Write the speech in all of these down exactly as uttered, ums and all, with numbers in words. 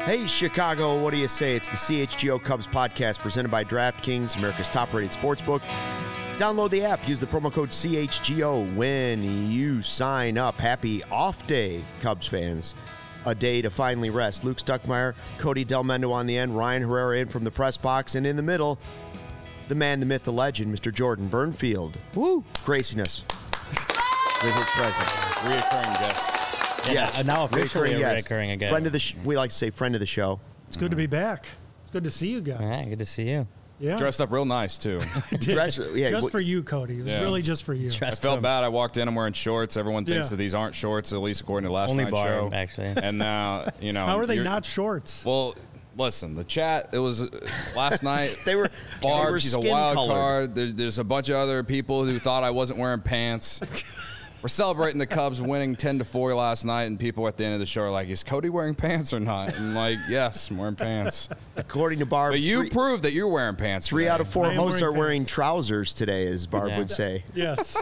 Hey, Chicago, what do you say? It's the C H G O Cubs podcast presented by DraftKings, America's top-rated sportsbook. Download the app. Use the promo code C H G O when you sign up. Happy off day, Cubs fans. A day to finally rest. Luke Stuckmeyer, Cody Delmendo on the end, Ryan Herrera in from the press box, and in the middle, the man, the myth, the legend, Mister Jordan Burnfield. Woo! Gracing us with his presence. Reoccurring guest. Yeah, Yes. uh, now officially Reoccurring a guest. recurring again. Friend of the sh- we like to say friend of the show. It's good to be back. It's good to see you guys. Yeah, good to see you. Yeah. Dressed up real nice, too. Dress- yeah, just wh- for you, Cody. It was Yeah. really just for you. I Dressed felt him. bad. I walked in. I'm wearing shorts. Everyone thinks Yeah. that these aren't shorts, at least according to last Only night's Barb, show. actually. And now, you know. How are they you're- not shorts? Well, listen, the chat, it was uh, last night. They were Barb, they were she's a skin wild colored. card. There's, there's a bunch of other people who thought I wasn't wearing pants. We're celebrating the Cubs winning ten to four last night, and people at the end of the show are like, is Cody wearing pants or not? And I'm like, yes, I'm wearing pants. According to Barb, But you three, proved that you're wearing pants. three today. out of four I am hosts wearing are wearing pants. trousers today, as Barb Yeah. would say. Yes.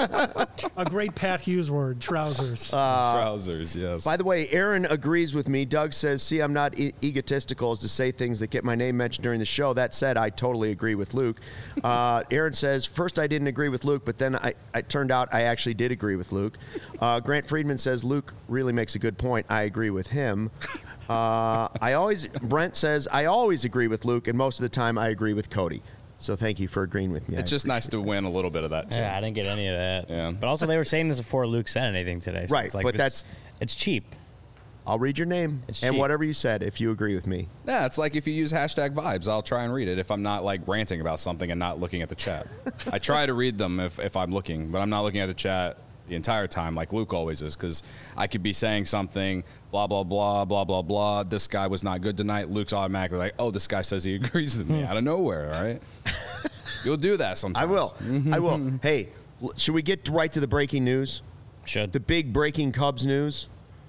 A great Pat Hughes word, trousers. Uh, Trousers, yes. By the way, Aaron agrees with me. Doug says, see, I'm not e- egotistical as to say things that get my name mentioned during the show. That said, I totally agree with Luke. Uh, Aaron says, first I didn't agree with Luke, but then I, it turned out I actually did agree with Luke. Uh, Grant Friedman says, Luke really makes a good point. I agree with him. Uh, I always, Brent says, I always agree with Luke, and most of the time I agree with Cody. So thank you for agreeing with me. It's I just nice to win a little bit of that, too. Yeah, I didn't get any of that. Yeah. But also, they were saying this before Luke said anything today. So Right, it's like, but it's- that's- it's cheap. I'll read your name It's and cheap. whatever you said if you agree with me. Yeah, it's like if you use hashtag vibes, I'll try and read it if I'm not like ranting about something and not looking at the chat. I try to read them if, if I'm looking, but I'm not looking at the chat the entire time like Luke always is, because I could be saying something, blah, blah, blah, blah, blah, blah. This guy was not good tonight. Luke's automatically like, oh, this guy says he agrees with me out of nowhere, all right? You'll do that sometimes. I will. I will. Hey, l- should we get right to the breaking news? Should. The big breaking Cubs news.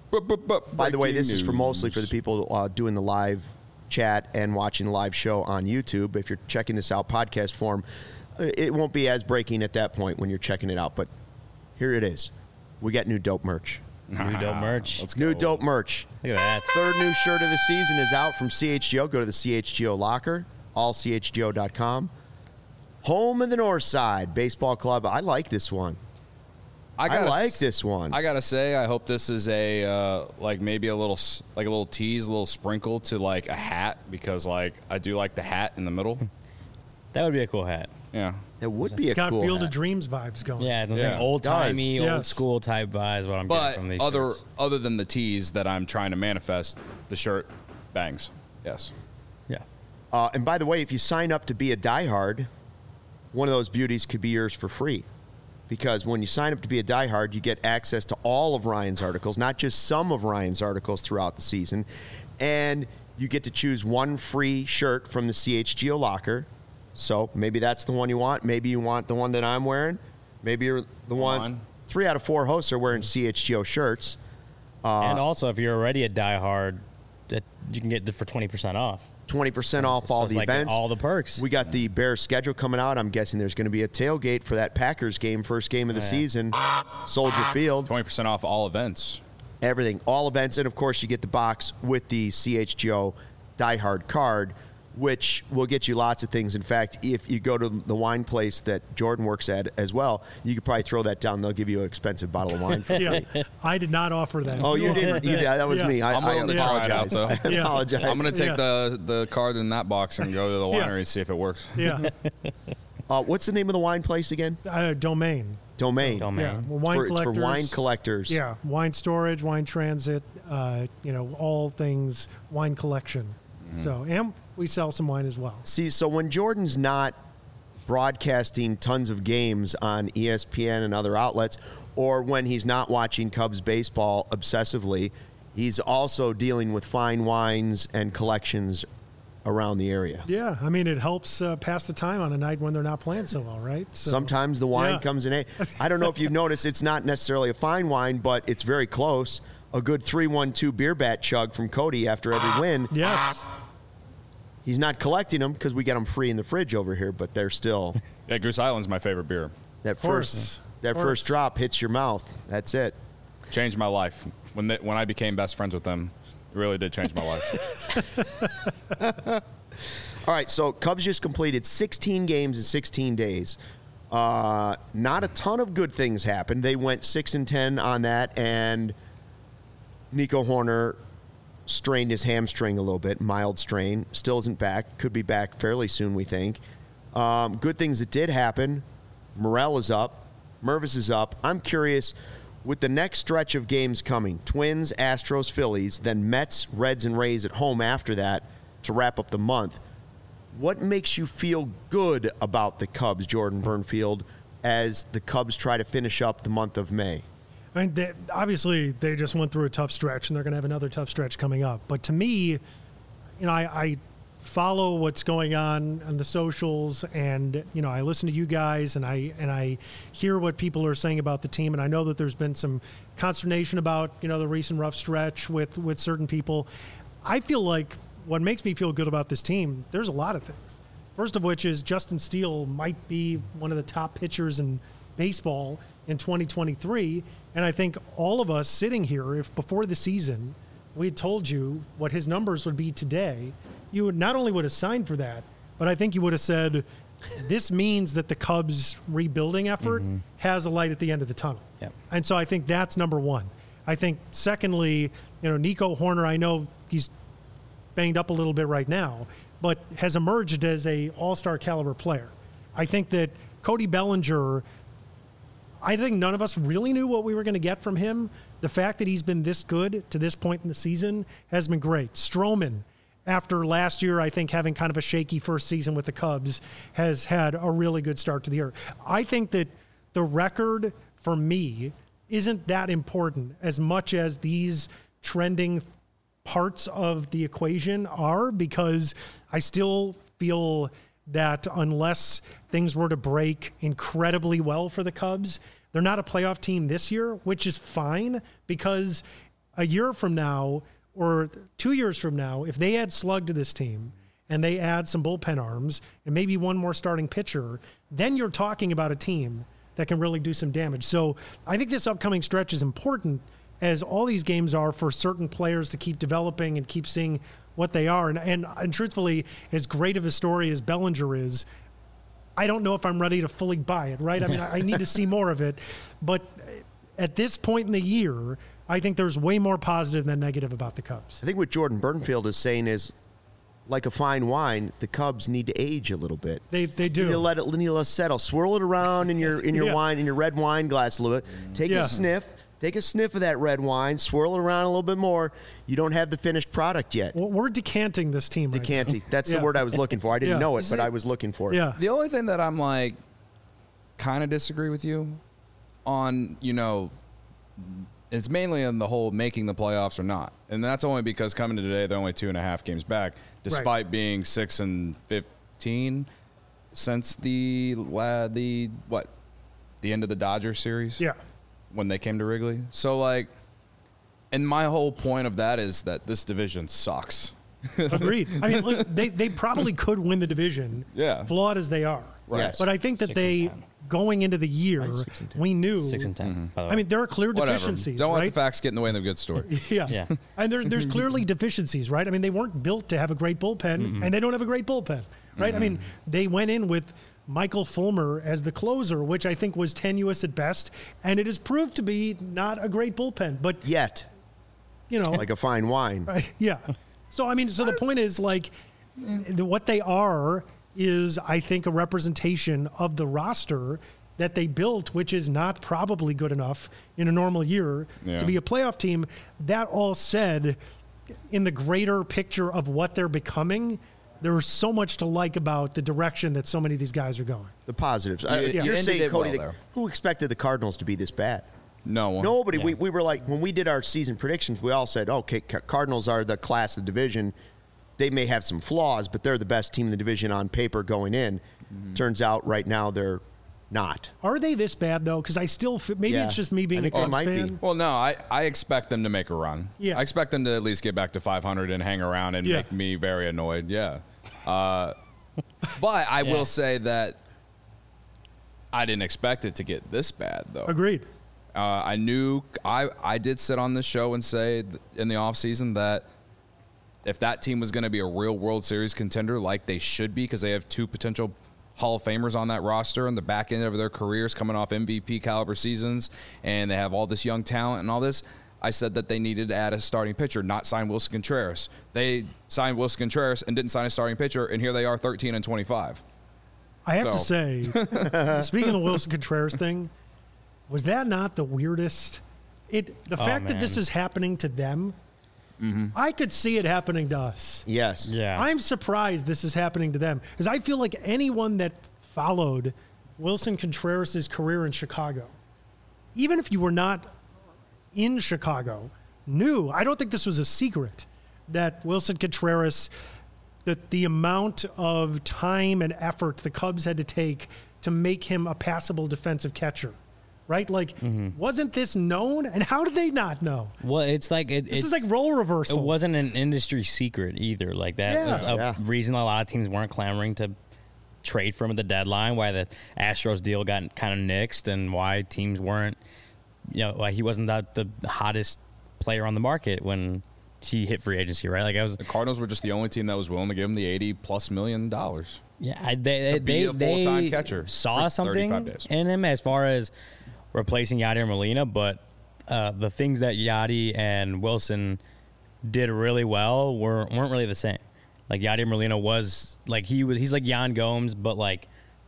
By the way, this is for mostly for the people uh, doing the live chat and watching the live show on YouTube. If you're checking this out podcast form, uh, it won't be as breaking at that point when you're checking it out. But here it is. We got new dope merch. New dope merch. Let's New go. dope merch. Look at that. Third new shirt of the season is out from C H G O. Go to the C H G O locker, all C H G O dot com. Home of the North Side Baseball Club. I like this one. I, gotta like s- this one. I gotta say, I hope this is a uh, like maybe a little s- like a little tease, a little sprinkle to like a hat, because like I do like the hat in the middle. That would be a cool hat. Yeah, It would be a Got cool Field hat. of Dreams vibes going. Yeah, it's Yeah. like old timey, Does. old Yes. school type vibes. What I'm but getting from these other shirts. other than the tease that I'm trying to manifest, the shirt bangs. Yes. Yeah. Uh, and by the way, if you sign up to be a diehard, one of those beauties could be yours for free. Because when you sign up to be a diehard, you get access to all of Ryan's articles, not just some of Ryan's articles throughout the season. And you get to choose one free shirt from the C H G O locker. So maybe that's the one you want. Maybe you want the one that I'm wearing. Maybe you're the one. on. Three out of four hosts are wearing C H G O shirts. and also, if you're already a diehard, that you can get it for twenty percent off. twenty percent off So all it's the like events. all the perks. We got the Bears schedule coming out. I'm guessing there's going to be a tailgate for that Packers game, first game of the Oh, yeah. season, Soldier Field. Twenty percent off all events. Everything, all events, and of course you get the box with the C H G O Die Hard card, which will get you lots of things. In fact, if you go to the wine place that Jordan works at as well, you could probably throw that down. They'll give you an expensive bottle of wine for Yeah. free. I did not offer that. Oh, you didn't? You did. That was Yeah. me. I, I'm I willing to try it out, apologize. though. I Yeah. apologize. I'm gonna take Yeah. the the card in that box and go to the Yeah. winery and see if it works. Yeah. Uh, what's the name of the wine place again? Uh, domain. Domain. Domain. Yeah. Man. Well, wine For, it's for collectors. wine collectors. Yeah. Wine storage, wine transit, uh, you know, all things wine collection. Mm-hmm. So, and we sell some wine as well. See, so when Jordan's not broadcasting tons of games on E S P N and other outlets, or when he's not watching Cubs baseball obsessively, he's also dealing with fine wines and collections around the area. Yeah. I mean, it helps uh, pass the time on a night when they're not playing so well, right? So, Sometimes the wine Yeah. comes in. A, I don't know if you've noticed, it's not necessarily a fine wine, but it's very close. A good three one two beer bat chug from Cody after every win. Yes. He's not collecting them because we get them free in the fridge over here, but they're still Yeah, Goose Island's my favorite beer. that course. first that Of course. first drop hits your mouth. That's it. Changed my life when they, when I became best friends with them. It really did change my life. All right, so Cubs just completed sixteen games in sixteen days. Uh, not a ton of good things happened. They went six and ten on that, and Nico Hoerner strained his hamstring a little bit, mild strain. Still isn't back. Could be back fairly soon, we think. Um, good things that did happen. Morel is up. Mervis is up. I'm curious, with the next stretch of games coming, Twins, Astros, Phillies, then Mets, Reds, and Rays at home after that to wrap up the month, what makes you feel good about the Cubs, Jordan Burnfield, as the Cubs try to finish up the month of May? I mean, they, obviously, they just went through a tough stretch, and they're going to have another tough stretch coming up. But to me, you know, I, I follow what's going on on the socials, and you know, I listen to you guys, and I and I hear what people are saying about the team, and I know that there's been some consternation about you know the recent rough stretch with with certain people. I feel like what makes me feel good about this team, there's a lot of things. First of which is Justin Steele might be one of the top pitchers in baseball in twenty twenty-three. And I think all of us sitting here, if before the season we had told you what his numbers would be today, you would not only would have signed for that, but I think you would have said, this means that the Cubs rebuilding effort mm-hmm. has a light at the end of the tunnel. Yep. And so I think that's number one. I think secondly, you know, Nico Hoerner, I know he's banged up a little bit right now, but has emerged as a all-star caliber player. I think that Cody Bellinger, I think none of us really knew what we were going to get from him. The fact that he's been this good to this point in the season has been great. Stroman, after last year, I think having kind of a shaky first season with the Cubs, has had a really good start to the year. I think that the record for me isn't that important as much as these trending parts of the equation are, because I still feel that unless things were to break incredibly well for the Cubs, they're not a playoff team this year, which is fine, because a year from now or two years from now, if they add Slug to this team and they add some bullpen arms and maybe one more starting pitcher, then you're talking about a team that can really do some damage. So I think this upcoming stretch is important, as all these games are, for certain players to keep developing and keep seeing what they are. And, and, and truthfully, as great of a story as Bellinger is, I don't know if I'm ready to fully buy it, right? I mean, I, I need to see more of it. But at this point in the year, I think there's way more positive than negative about the Cubs. I think what Jordan Burnfield is saying is, like a fine wine, the Cubs need to age a little bit. They they do. You need to let it, you need to let it settle. Swirl it around in your in your yeah. wine, in your red wine glass a little bit. Take yeah. a sniff. Take a sniff of that red wine, swirl it around a little bit more. You don't have the finished product yet. Well, we're decanting this team right Decanting. now. That's yeah. the word I was looking for. I didn't yeah. know it, Is but it, I was looking for it. Yeah. The only thing that I'm like kind of disagree with you on, you know, it's mainly on the whole making the playoffs or not. And that's only because coming to today, they're only two and a half games back, despite right. being six and fifteen since the, uh, the what, the end of the Dodgers series? Yeah. When they came to Wrigley. So, like, and my whole point of that is that this division sucks. Agreed. I mean, look, they, they probably could win the division, yeah. flawed as they are. Right. Yes. But I think that Six they, and ten. going into the year, Right, six and ten. we knew. Six and ten. Mm-hmm. By the way. I mean, there are clear Whatever. deficiencies, Don't right? let the facts get in the way of the good story. Yeah. Yeah. And there, there's clearly deficiencies, right? I mean, they weren't built to have a great bullpen, Mm-hmm. and they don't have a great bullpen, right? Mm-hmm. I mean, they went in with Michael Fulmer as the closer, which I think was tenuous at best, and it has proved to be not a great bullpen. But, Yet, you know. like a fine wine. Right, yeah. So, I mean, so the point is, like, the, what they are is, I think, a representation of the roster that they built, which is not probably good enough in a normal year Yeah. to be a playoff team. That all said, in the greater picture of what they're becoming, there's so much to like about the direction that so many of these guys are going. The positives. Uh, You- you You're ended saying, it Cody, well that- there. who expected the Cardinals to be this bad? No one. Nobody. Yeah. We, we were like, when we did our season predictions, we all said, okay, Ca- Cardinals are the class of the division. They may have some flaws, but they're the best team in the division on paper going in. Mm-hmm. Turns out right now they're not. Are they this bad, though? Because I still f- maybe Yeah. it's just me being I a think they Cubs might be. fan. Well, no, I, I expect them to make a run. Yeah. I expect them to at least get back to five hundred and hang around and Yeah. make me very annoyed. Yeah. Uh, but I Yeah. will say that I didn't expect it to get this bad, though. Agreed. Uh, I knew I, I did sit on this show and say th- in the offseason that if that team was going to be a real World Series contender like they should be, because they have two potential Hall of Famers on that roster on the back end of their careers coming off M V P caliber seasons, and they have all this young talent and all this, I said that they needed to add a starting pitcher, not sign Wilson Contreras. They signed Wilson Contreras and didn't sign a starting pitcher, and here they are thirteen and twenty-five. I have So. to say, speaking of the Wilson Contreras thing, was that not the weirdest? It the Oh, fact that this man. is happening to them, Mm-hmm. I could see it happening to us. Yes. Yeah. I'm surprised this is happening to them because I feel like anyone that followed Wilson Contreras' career in Chicago, even if you were not in Chicago, knew. I don't think this was a secret that Wilson Contreras, that the amount of time and effort the Cubs had to take to make him a passable defensive catcher. Right? Like, wasn't this known? And how did they not know? Well, it's like it, This it's, is like role reversal. It wasn't an industry secret either. Like that Yeah. was a Yeah. reason a lot of teams weren't clamoring to trade for him at the deadline. Why the Astros deal got kind of nixed, and why teams weren't, you know, why he wasn't that the hottest player on the market when he hit free agency. Right? Like I was. The Cardinals were just the only team that was willing to give him the eighty plus million dollars. Yeah, I, they, To be they, a full-time they catcher saw for something thirty-five days. in him as far as replacing Yadier Molina, but uh, the things that Yadi and Wilson did really well were, weren't really the same. Like Yadier Molina was like he was he's like Yan Gomes, but like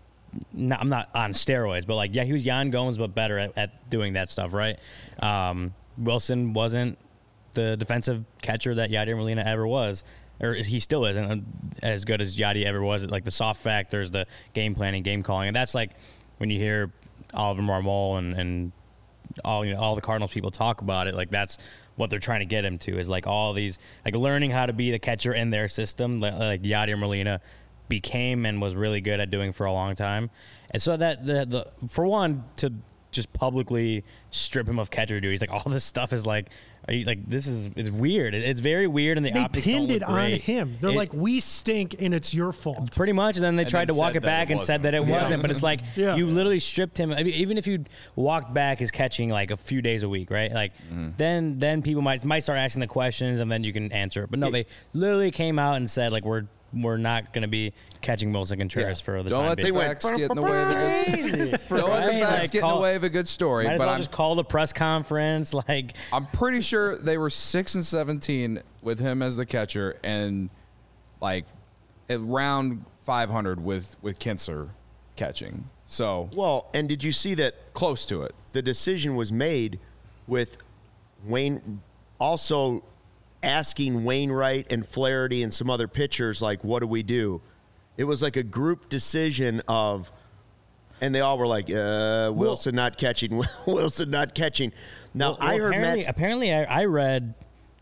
not, I'm not on steroids, but like yeah, he was Yan Gomes, but better at, at doing that stuff, right? Um, Wilson wasn't the defensive catcher that Yadier Molina ever was. Or he still isn't as good as Yadi ever was. Like the soft factors, the game planning, game calling, and that's like when you hear Oliver Marmol and, and all you know all the Cardinals people talk about it. Like that's what they're trying to get him to is like all these like learning how to be the catcher in their system. Like, like Yadier Molina became and was really good at doing for a long time, and so that the the for one to just publicly strip him of catcher duties, like all this stuff is like, are you, like this is it's weird. It, it's very weird, and the they optics pinned don't it look on great. him. They're It- like, we stink and it's your fault. Pretty much, and then they And tried then to walk said it that back it and said that it wasn't. wasn't. But it's like Yeah. you literally stripped him. I mean, even if you walked back his catching like a few days a week, right? Like then then people might might start asking the questions, and then you can answer it. But no, they literally came out and said like we're we're not going to be catching Wilson Contreras Yeah. for the Don't time let the being. facts get in the way of a good. Don't let the Right? facts Like, get in call- the way of a good story. Might as But well I'm just call the press conference. Like I'm pretty sure they were six and seventeen with him as the catcher, and like at round five hundred with with Kinsler catching. So Well, and did you see that close to it. the decision was made with Wayne also asking Wainwright and Flaherty and some other pitchers, like, what do we do? It was like a group decision of, and they all were like, uh, Wilson not catching, Wilson not catching. Now, Well, I well, heard apparently, Matt. apparently I, I read,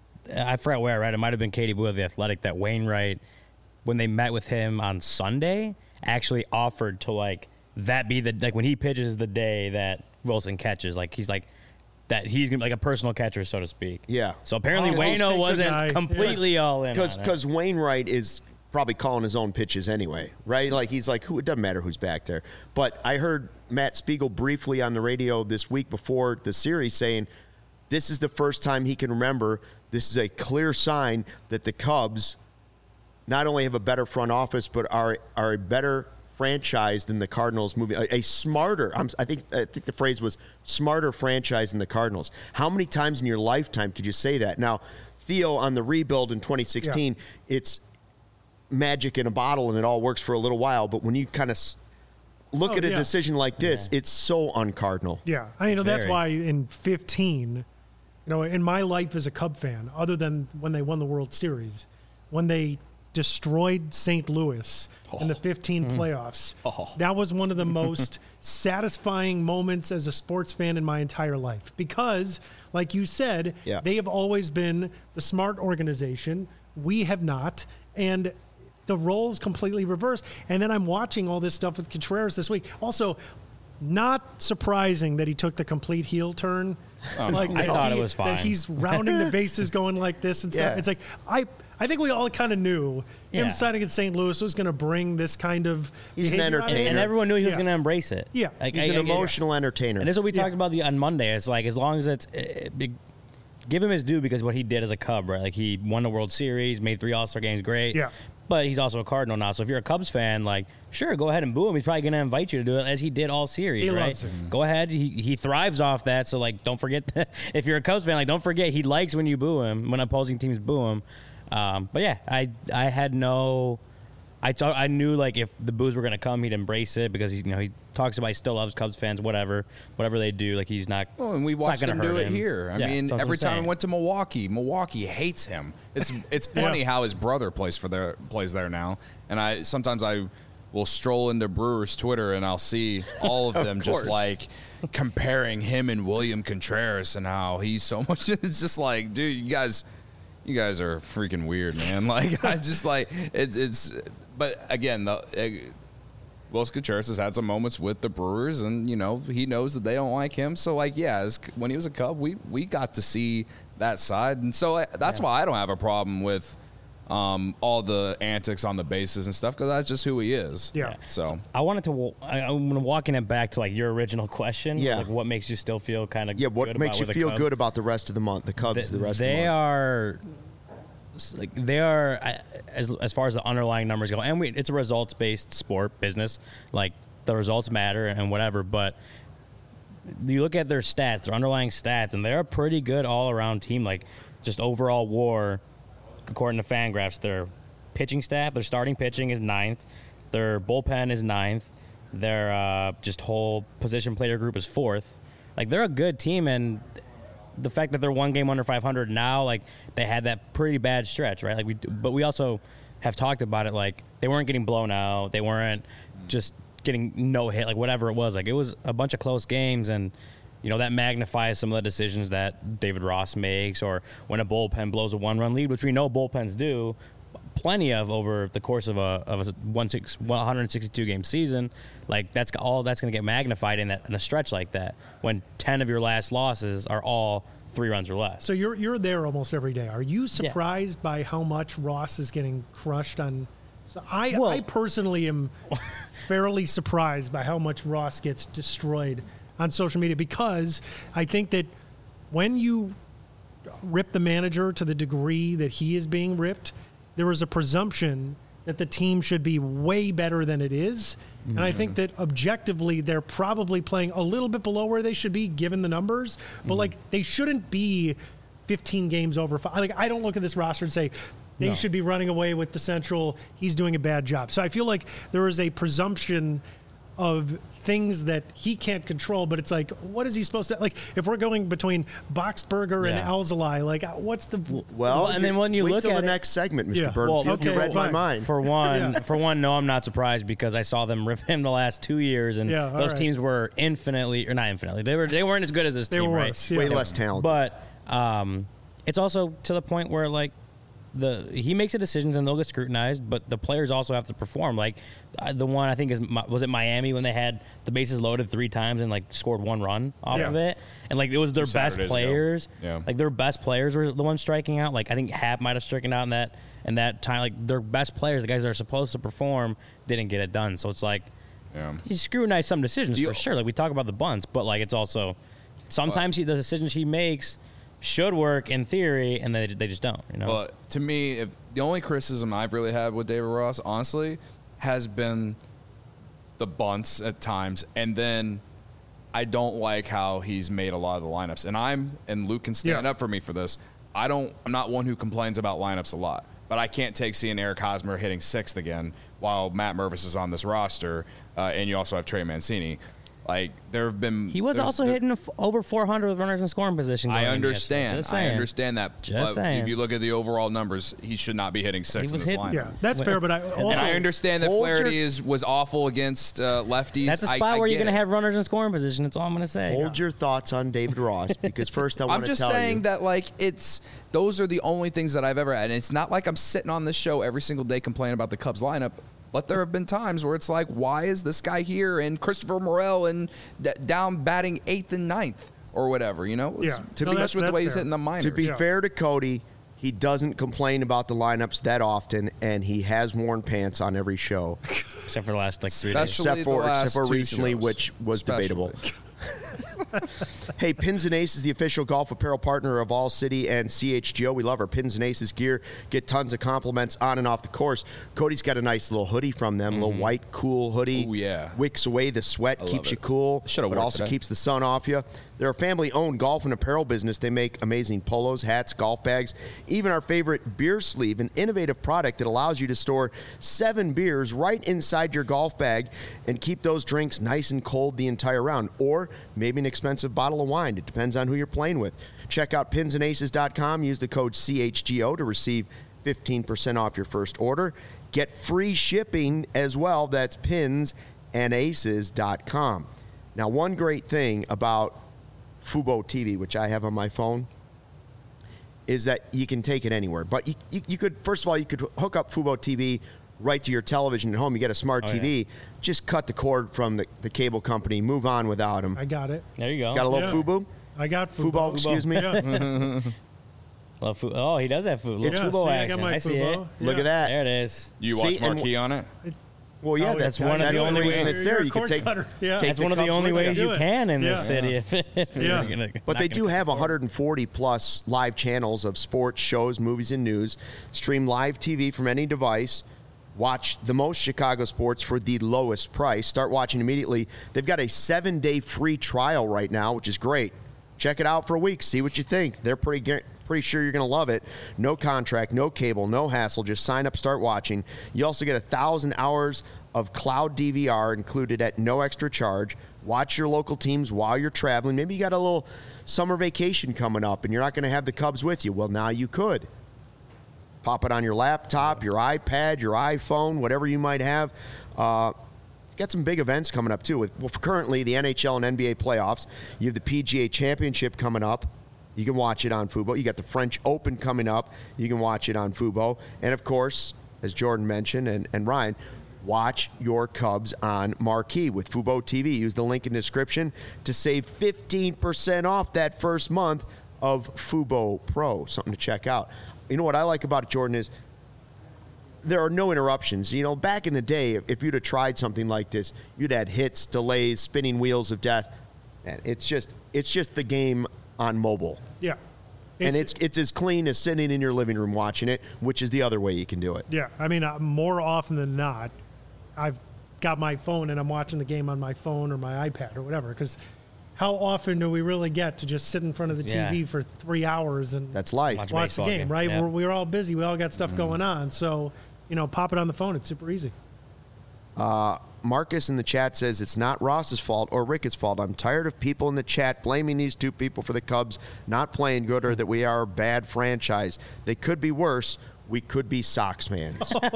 I forgot where I read. It might have been Katie Boo of The Athletic that Wainwright, when they met with him on Sunday, actually offered to like that be the like when he pitches the day that Wilson catches. Like he's like that he's gonna be like a personal catcher, so to speak. Yeah. So apparently Oh, Waino okay, wasn't good guy. completely all in. Because on it. because Wainwright is probably calling his own pitches anyway, right? Like he's like, who? It doesn't matter who's back there. But I heard Matt Spiegel briefly on the radio this week before the series saying, this is the first time he can remember. This is a clear sign that the Cubs not only have a better front office, but are are a better franchise than the Cardinals. Moving a, a smarter. I'm, I think I think the phrase was smarter franchise than the Cardinals. How many times in your lifetime could you say that? Now, Theo on the rebuild in twenty sixteen, it's magic in a bottle and it all works for a little while. But when you kind of look Oh, at a yeah. decision like this, it's so uncardinal. Yeah, I you know that's Very. why in fifteen, you know, in my life as a Cub fan, other than when they won the World Series, when they destroyed Saint Louis in the fifteen playoffs, that was one of the most satisfying moments as a sports fan in my entire life because, like you said, Yeah. they have always been the smart organization. We have not, and the roles completely reversed. And then I'm watching all this stuff with Contreras this week. Also, not surprising that he took the complete heel turn. like I that thought it he- was That fine. he's rounding the bases, going like this and stuff. Yeah. It's like I, I think we all kind of knew Yeah. him signing at Saint Louis was going to bring this kind of. He's an behavior out of entertainer. and everyone knew he was Yeah. going to embrace it. Yeah. Like, He's I- an I- emotional entertainer. And this is what we Yeah. talked about the on Monday. It's like as long as it's uh, big, give him his due because what he did as a Cub, right? Like he won the World Series, made three All-Star games, great. Yeah. But he's also a Cardinal now. So if you're a Cubs fan, like, sure, go ahead and boo him. He's probably going to invite you to do it as he did all series, He right? loves it. Go ahead. He he thrives off that. So, like, don't forget that. If you're a Cubs fan, like, don't forget he likes when you boo him, when opposing teams boo him. Um, but, yeah, I I had no – I thought I knew, like, if the boos were going to come, he'd embrace it because, he, you know, he talks about he still loves Cubs fans, whatever. Whatever they do, like, he's not – Well, and we watched him do it here. I Yeah, mean, that's what every I'm time saying. he went to Milwaukee, Milwaukee hates him. It's it's funny Yeah. how his brother plays for their plays there now. And I sometimes I will stroll into Brewers Twitter and I'll see all of them just course. like comparing him and William Contreras and how he's so much. It's just like, dude, you guys. You guys are freaking weird, man. Like, I just like it's it's. But again, the uh, Wilson Contreras has had some moments with the Brewers, and you know he knows that they don't like him. So, like, yeah, as, when he was a Cub, we we got to see that side, and so uh, that's Yeah. why I don't have a problem with um, all the antics on the bases and stuff because that's just who he is. Yeah. So I wanted to. wa- I, I'm walking it back to like your original question. Yeah. Like, what makes you still feel kind of Yeah, what good makes about you with the feel Cubs? good about the rest of the month, the Cubs, Th- the rest they of the month? are like they are I- as as far as the underlying numbers go, and we, it's a results based sport business. Like the results matter and whatever, but you look at their stats, their underlying stats, and they're a pretty good all around team. Like just overall WAR, according to Fangraphs, their pitching staff, their starting pitching is ninth, their bullpen is ninth, their uh, just whole position player group is fourth. Like they're a good team, and the fact that they're one game under five hundred now, like they had that pretty bad stretch, right? Like we, but we also have talked about it. Like they weren't getting blown out, they weren't just getting no hit, like whatever it was. Like it was a bunch of close games, and you know that magnifies some of the decisions that David Ross makes, or when a bullpen blows a one-run lead, which we know bullpens do plenty of over the course of a of a one six one hundred sixty-two game season. Like that's all that's going to get magnified in that in a stretch like that when ten of your last losses are all three runs or less. So you're you're there almost every day. Are you surprised by how much Ross is getting crushed on? So I Well- I personally am fairly surprised by how much Ross gets destroyed on social media because I think that when you rip the manager to the degree that he is being ripped, there is a presumption that the team should be way better than it is. And I think that objectively, they're probably playing a little bit below where they should be given the numbers, but like they shouldn't be fifteen games over five. Like I don't look at this roster and say they No. should be running away with the Central. He's doing a bad job. So I feel like there is a presumption of things that he can't control, but it's like, what is he supposed to, like, if we're going between Boxberger and Yeah. Alzolay, like, what's the, Well, Well, and then when you wait look till at the it- next segment, Mister Yeah. Burnfield. Well, you okay, read my fine. mind. For one, Yeah. for one, no, I'm not surprised because I saw them rip him the last two years, and Yeah, all those right. teams were infinitely, or not infinitely, they were they weren't as good as this they team, were right? worse. Yeah. Way less talented. But um, it's also to the point where like the he makes the decisions and they'll get scrutinized, but the players also have to perform. Like uh, the one I think is Mi- was it Miami when they had the bases loaded three times and like scored one run off Yeah. of it, and like it was their Two best Saturdays ago. players. Yeah. Like their best players were the ones striking out. Like I think Happ might have stricken out in that in that time. Like their best players, the guys that are supposed to perform, didn't get it done. So it's like yeah. you scrutinize some decisions The- for sure. Like we talk about the bunts, but like it's also sometimes he, the decisions he makes should work in theory, and they they just don't. You know. But to me, if the only criticism I've really had with David Ross, honestly, has been the bunts at times, and then I don't like how he's made a lot of the lineups. And I'm and Luke can stand Yeah. up for me for this. I don't. I'm not one who complains about lineups a lot, but I can't take seeing Eric Hosmer hitting sixth again while Matt Mervis is on this roster, uh, and you also have Trey Mancini. Like there have been. he was there's- also there- hitting f- over four hundred with runners in scoring position. I going into understand. yesterday. Just I saying. understand that. Just but saying. if you look at the overall numbers, he should not be hitting six in was this hitting- lineup. yeah, that's fair, but I also, And I understand that Hold your- Flaherty is was awful against uh, lefties. That's a I- spot I where you're get going to it. have runners in scoring position. That's all I'm going to say. Hold your thoughts on David Ross because first I want I'm to just tell saying you. that like it's those are the only things that I've ever had. And it's not like I'm sitting on this show every single day complaining about the Cubs lineup. But there have been times where it's like, why is this guy here and Christopher Morel and d- down batting eighth and ninth or whatever, you know? It's, Yeah. to No, be that's- especially with the that's way he's fair. hitting the minors. To be Yeah. fair to Cody, he doesn't complain about the lineups that often, and he has worn pants on every show, Except for the last like three days. Especially except the for last except for two recently, shows. which was Especially. debatable. Hey, Pins and Aces, the official golf apparel partner of All City and C H G O. We love our Pins and Aces gear. Get tons of compliments on and off the course. Cody's got a nice little hoodie from them, mm-hmm. little white, cool hoodie. Oh, yeah. Wicks away the sweat, I keeps you it. cool, Should've but worn also today. keeps the sun off you. They're a family-owned golf and apparel business. They make amazing polos, hats, golf bags, even our favorite beer sleeve, an innovative product that allows you to store seven beers right inside your golf bag and keep those drinks nice and cold the entire round, or maybe an expensive bottle of wine. It depends on who you're playing with. Check out pins and aces dot com. Use the code C H G O to receive fifteen percent off your first order. Get free shipping as well. That's pins and aces dot com. Now, one great thing about Fubo T V, which I have on my phone, is that you can take it anywhere. But you, you, you could, first of all, you could hook up Fubo T V right to your television at home. You get a smart Oh, T V. yeah. Just cut the cord from the, the cable company. Move on without them. I got it. There you go. Got a little Yeah. Fubo? I got Fubo, Fubo. excuse me. Yeah. Love Fu- oh, he does have food. Little Yeah, Fubo see, I action. got my I see it. Fubo. Look Yeah. at that. There it is. You See, watch and Marquee on it? Well, yeah, Oh, that's, that's one of the that's only reason ways- it's there. You're a You can cord take, cutter. Yeah. take That's one of the cups only with ways you. you can in this Yeah. city. If, if Yeah. you're gonna, But not they gonna do have afford it. one hundred forty plus live channels of sports, shows, movies, and news. Stream live T V from any device. Watch the most Chicago sports for the lowest price. Start watching immediately. They've got a seven-day free trial right now, which is great. Check it out for a week. See what you think. They're pretty guar- pretty sure you're going to love it. No contract, no cable, no hassle. Just sign up, start watching. You also get one thousand hours of cloud D V R included at no extra charge. Watch your local teams while you're traveling. Maybe you got a little summer vacation coming up and you're not going to have the Cubs with you. Well, now you could. Pop it on your laptop, your iPad, your iPhone, whatever you might have. Uh, it's got some big events coming up, too. With well, currently, the N H L and N B A playoffs. You have the P G A Championship coming up. You can watch it on Fubo. You got the French Open coming up. You can watch it on Fubo. And, of course, as Jordan mentioned and, and Ryan, watch your Cubs on Marquee with Fubo T V. Use the link in the description to save fifteen percent off that first month of Fubo Pro. Something to check out. You know what I like about it, Jordan, is there are no interruptions. You know, back in the day, if you'd have tried something like this, you'd had hits, delays, spinning wheels of death. And it's just it's just the game on mobile. Yeah. and it's it's as clean as sitting in your living room watching it, which is the other way you can do it. Yeah, I mean, uh, more often than not, I've got my phone and I'm watching the game on my phone or my iPad or whatever. Because how often do we really get to just sit in front of the Yeah. T V for three hours and That's life. Watch watch the baseball game, game, right? yeah. We're, we're all busy. We all got stuff going on. So, you know, pop it on the phone. It's super easy. Marcus in the chat says it's not Ross's fault or Ricketts' fault. I'm tired of people in the chat blaming these two people for the Cubs not playing good or that we are a bad franchise. They could be worse. We could be Sox fans.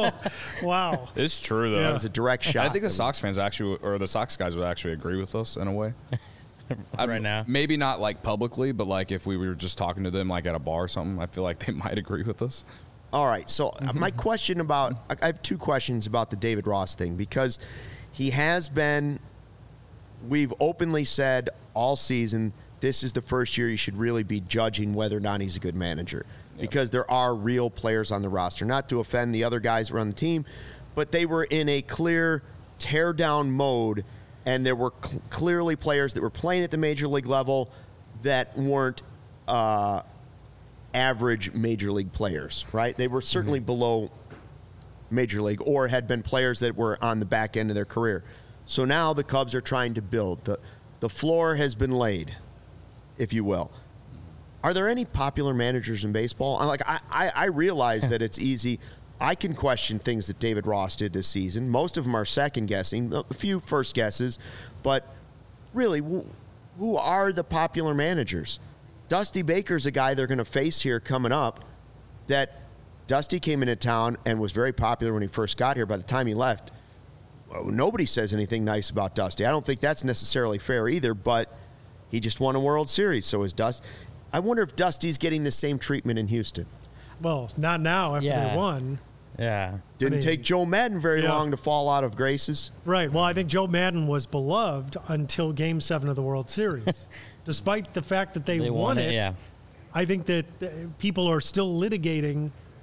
Wow. It's true though. Yeah. That was a direct shot. I think the That Sox fans actually, or the Sox guys would actually agree with us in a way. I- Right now. Maybe not like publicly, but like if we were just talking to them like at a bar or something, I feel like they might agree with us. All right. So uh, my question about I I have two questions about the David Ross thing because he has been. We've openly said all season this is the first year you should really be judging whether or not he's a good manager because there are real players on the roster. Not to offend the other guys who are on the team, but they were in a clear tear down mode, and there were cl- clearly players that were playing at the major league level that weren't. Uh, average major league players, right? They were certainly below major league or had been players that were on the back end of their career. So now the Cubs are trying to build. The, the floor has been laid, if you will. Are there any popular managers in baseball? I'm Like I, I, I realize that it's easy. I can question things that David Ross did this season. Most of them are second guessing, a few first guesses, but really, who, who are the popular managers? Dusty Baker's a guy they're going to face here coming up that Dusty came into town and was very popular when he first got here. By the time he left, well, nobody says anything nice about Dusty. I don't think that's necessarily fair either, but he just won a World Series, so is Dusty. I wonder if Dusty's getting the same treatment in Houston. Well, not now after Yeah. they won. Yeah. Didn't mean, take Joe Madden very yeah. long to fall out of graces. Right. Well, I think Joe Madden was beloved until Game Seven of the World Series, despite the fact that they, They won, won it. it, yeah. I think that uh, people are still litigating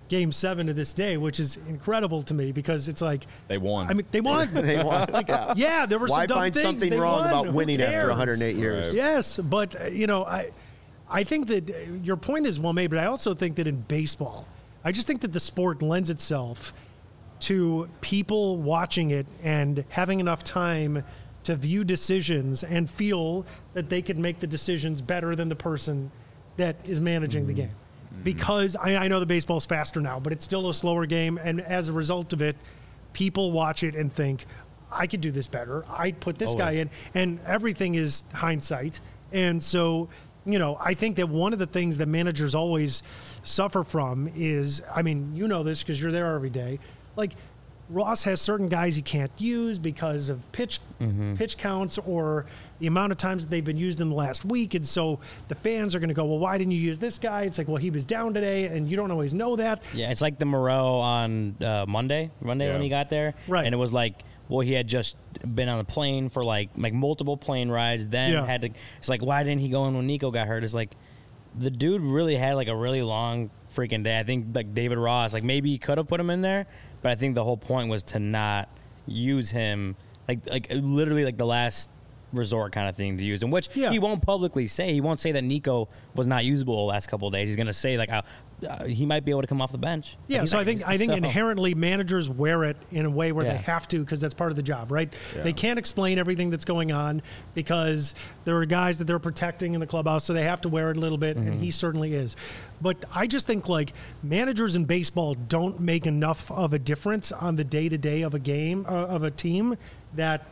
Game Seven to this day, which is incredible to me because it's like They won. I mean, they won. They won. Like, yeah, there were Why some dumb find things. something They wrong won. about Who winning after cares? one hundred eight years? Right. Yes, but uh, you know, I, I think that uh, your point is well made, but I also think that in baseball, I just think that the sport lends itself to people watching it and having enough time to view decisions and feel that they can make the decisions better than the person that is managing the game. Because I, I know the baseball's faster now, but it's still a slower game, and as a result of it, people watch it and think, I could do this better. I'd put this guy in, and everything is hindsight. And so, you know, I think that one of the things that managers always suffer from is, I mean, you know this because you're there every day, like Ross has certain guys he can't use because of pitch mm-hmm. pitch counts or the amount of times that they've been used in the last week. And so the fans are going to go, well, why didn't you use this guy? It's like, well, he was down today, and you don't always know that. Yeah, it's like the Moreau on uh, Monday, Monday Yeah. when he got there. Right. And it was like, well, he had just been on a plane for like like multiple plane rides, then Yeah. had to, it's like, why didn't he go in when Nico got hurt? It's like, the dude really had like a really long freaking day. I think like David Ross, like maybe he could have put him in there, but I think the whole point was to not use him, like like literally like the last resort kind of thing to use him, which Yeah. he won't publicly say. He won't say that Nico was not usable the last couple of days. He's going to say like uh, uh, he might be able to come off the bench. Yeah, He's so I not- think I think so- inherently managers wear it in a way where Yeah. they have to because that's part of the job, right? Yeah. They can't explain everything that's going on because there are guys that they're protecting in the clubhouse, so they have to wear it a little bit, Mm-hmm. and he certainly is. But I just think like managers in baseball don't make enough of a difference on the day to day of a game uh, of a team that.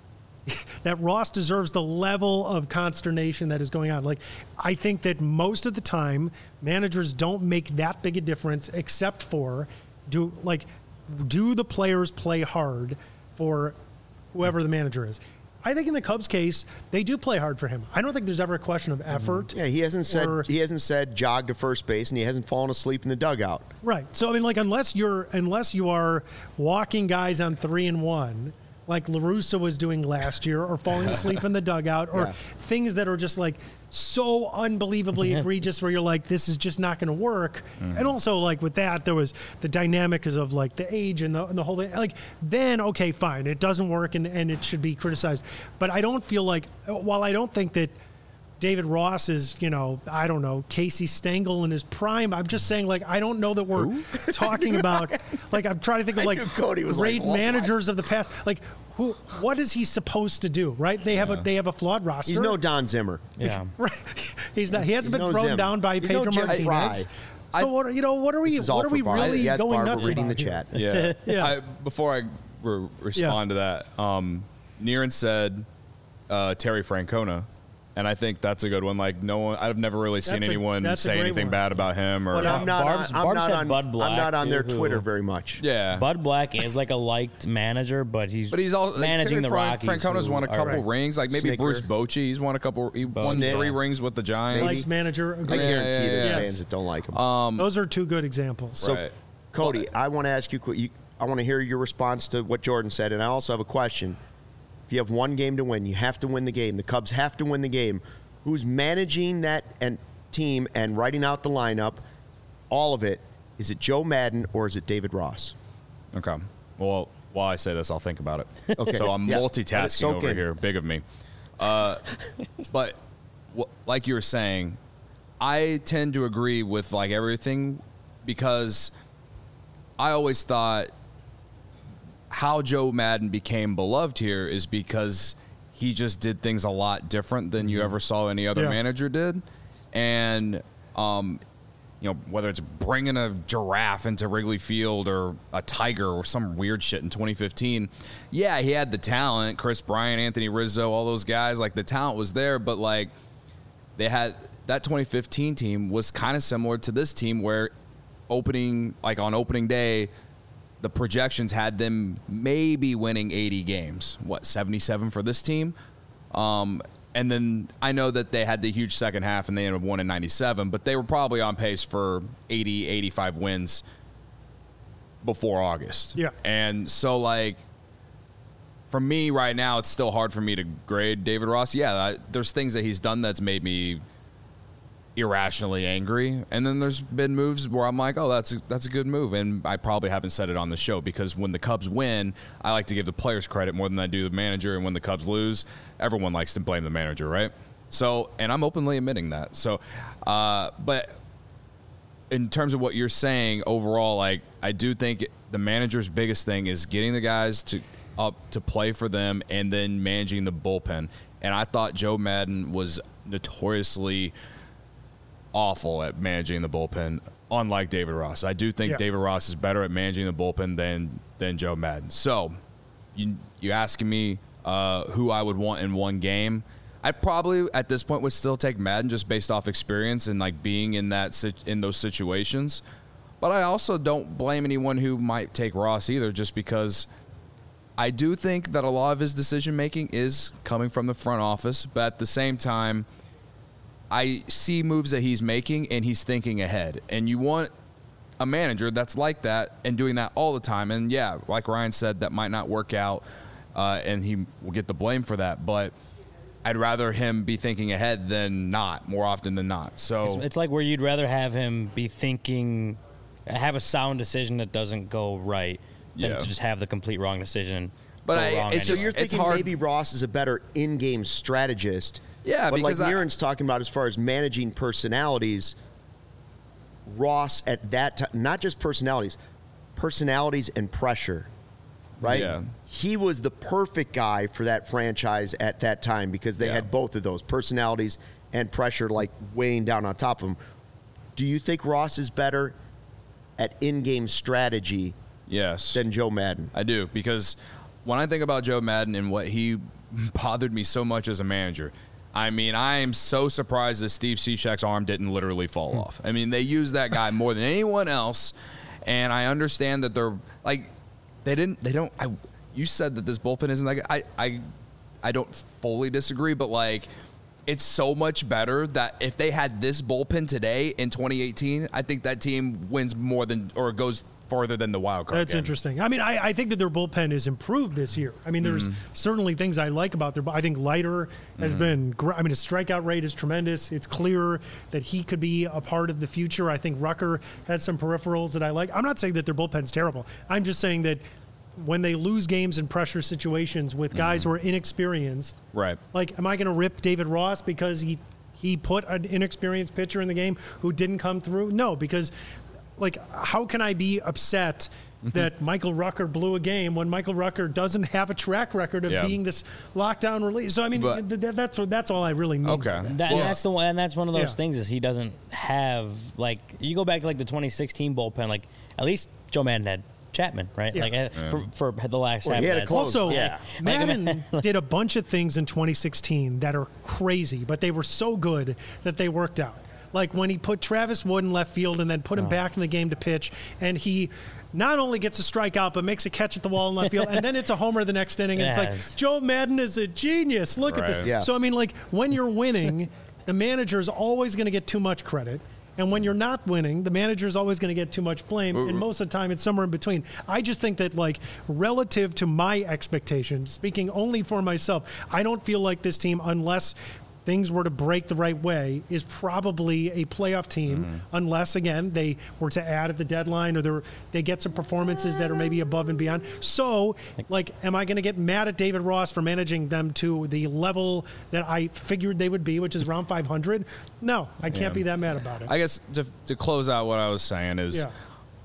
that Ross deserves the level of consternation that is going on. Like, I think that most of the time, managers don't make that big a difference, except for do like do the players play hard for whoever the manager is. I think in the Cubs case, they do play hard for him. I don't think there's ever a question of effort. Yeah, he hasn't said or- he hasn't said jog to first base, and he hasn't fallen asleep in the dugout. Right. So I mean, like, unless you're unless you are walking guys on three and one, like LaRussa was doing last year, or falling asleep in the dugout, or Yeah. things that are just like so unbelievably egregious where you're like, this is just not going to work. And also, like, with that, there was the dynamic is of like the age and the, and the whole thing. Like, then, okay, fine, it doesn't work and, and it should be criticized. But I don't feel like, while I don't think that David Ross is, you know, I don't know, Casey Stengel in his prime. I'm just saying, like, I don't know that we're talking about, like, I'm trying to think of, I like, knew Cody was great like, what? managers of the past. Like, who? What is he supposed to do, right? They have a they have a flawed roster. He's no Don Zimmer. Yeah. Right. He's not. He hasn't He's been no thrown Zim. down by He's Pedro no Jim Martinez. Fry. So what? are- You know, what are we? This is all What are for we Bar- really yes, going Barbara nuts reading about the here? chat. Yeah. Yeah. I, before I re- respond to that, um, Niren said uh, Terry Francona, and I think that's a good one. Like, no one, I've never really seen That's a- anyone that's a say great anything one. bad about him. Or But I'm not. Barb's- on, I'm Barb not said on. Bud I'm Black, not on too, their who- Twitter very much. yeah, Bud Black is like a liked manager, but he's But he's all like, managing Terry the Fran- Rockies. Francona's who won a are- couple rings. Like maybe Snicker. Bruce Bochy. He's won a couple. He won Snicker. three rings with the Giants. Liked manager. I agreed. Yeah, guarantee yeah, there's yeah. fans that don't like him. Um, Those are two good examples. so, right. Cody, I want to ask you, you. I want to hear your response to what Jordan said, and I also have a question. If you have one game to win, you have to win the game. The Cubs have to win the game. Who's managing that and team and writing out the lineup? All of it. Is it Joe Madden or is it David Ross? Okay. Well, while I say this, I'll think about it. Okay. So I'm Yeah. Let it multitasking soak over in. here. Big of me. Uh, but wh- like you were saying, I tend to agree with like everything because I always thought how Joe Madden became beloved here is because he just did things a lot different than you ever saw any other Yeah. manager did. And, um, you know, whether it's bringing a giraffe into Wrigley Field or a tiger or some weird shit in twenty fifteen. Yeah, he had the talent. Chris Bryant, Anthony Rizzo, all those guys. Like, the talent was there, but, like, they had that twenty fifteen team was kind of similar to this team where opening, like, on opening day, the projections had them maybe winning eighty games. What, seventy-seven for this team? Um, and then I know that they had the huge second half and they ended up winning ninety-seven, but they were probably on pace for eighty, eighty-five wins before August. Yeah. And so, like, for me right now, it's still hard for me to grade David Ross. Yeah, I, there's things that he's done that's made me irrationally angry, and then there's been moves where I'm like, oh, that's a, that's a good move, and I probably haven't said it on the show because when the Cubs win, I like to give the players credit more than I do the manager, and when the Cubs lose, everyone likes to blame the manager, right? So, and I'm openly admitting that. So, uh, but in terms of what you're saying overall, like I do think the manager's biggest thing is getting the guys to up to play for them and then managing the bullpen. And I thought Joe Maddon was notoriously awful at managing the bullpen, unlike David Ross. I do think yeah. David Ross is better at managing the bullpen than than Joe Maddon. So, you you asking me uh, who I would want in one game? I probably at this point would still take Maddon just based off experience and like being in that in those situations. But I also don't blame anyone who might take Ross either, just because I do think that a lot of his decision making is coming from the front office. But at the same time, I see moves that he's making and he's thinking ahead. And you want a manager that's like that and doing that all the time. And yeah, like Ryan said, that might not work out uh, and he will get the blame for that. But I'd rather him be thinking ahead than not, more often than not. So it's, it's like where you'd rather have him be thinking, have a sound decision that doesn't go right than Yeah. to just have the complete wrong decision. But go I- wrong it's So just- you're anyway. it's thinking hard- maybe Ross is a better in-game strategist. Yeah, but like because I- Niren's talking about as far as managing personalities, Ross at that time, not just personalities, personalities and pressure, right? Yeah. He was the perfect guy for that franchise at that time because they Yeah. had both of those, personalities and pressure, like weighing down on top of him. Do you think Ross is better at in-game strategy yes. than Joe Maddon? I do, because when I think about Joe Maddon and what he bothered me so much as a manager, I mean, I am so surprised that Steve Cishek's arm didn't literally fall Hmm. off. I mean, they use that guy more than anyone else, and I understand that they're like they didn't they don't. I you said that this bullpen isn't that good. I I I don't fully disagree, but like it's so much better that if they had this bullpen today in twenty eighteen, I think that team wins more than or goes farther than the wild card. That's game. interesting. I mean, I, I think that their bullpen is improved this year. I mean, there's Mm-hmm. certainly things I like about their. bu- I think Leiter has been great. I mean, his strikeout rate is tremendous. It's clear that he could be a part of the future. I think Rucker has some peripherals that I like. I'm not saying that their bullpen's terrible. I'm just saying that when they lose games in pressure situations with guys Mm-hmm. who are inexperienced, Right. like, am I going to rip David Ross because he he put an inexperienced pitcher in the game who didn't come through? No, because like, how can I be upset that Michael Rucker blew a game when Michael Rucker doesn't have a track record of Yeah. being this lockdown release? So I mean, But- th- th- that's what that's all I really mean. Okay. by that. That, Well- and that's the one, and that's one of those Yeah. things is he doesn't have like you go back to like the twenty sixteen bullpen, like at least Joe Maddon had Chapman, right? Yeah. Like uh, for, for the last Well, half he of had a that. close- Also, yeah. Madden did a bunch of things in twenty sixteen that are crazy, but they were so good that they worked out. Like when he put Travis Wood in left field and then put him Oh. back in the game to pitch, and he not only gets a strikeout but makes a catch at the wall in left field, and then it's a homer the next inning. And it's Yes. like Joe Madden is a genius. Look at Right. this. Yes. So I mean, like when you're winning, the manager is always going to get too much credit. And when you're not winning, the manager is always going to get too much blame. And most of the time, it's somewhere in between. I just think that, like, relative to my expectations, speaking only for myself, I don't feel like this team, unless things were to break the right way, is probably a playoff team, Mm-hmm. unless, again, they were to add at the deadline or they're- they get some performances that are maybe above and beyond. So, like, am I going to get mad at David Ross for managing them to the level that I figured they would be, which is around five hundred? No, I can't Yeah. be that mad about it. I guess to, to close out what I was saying is Yeah.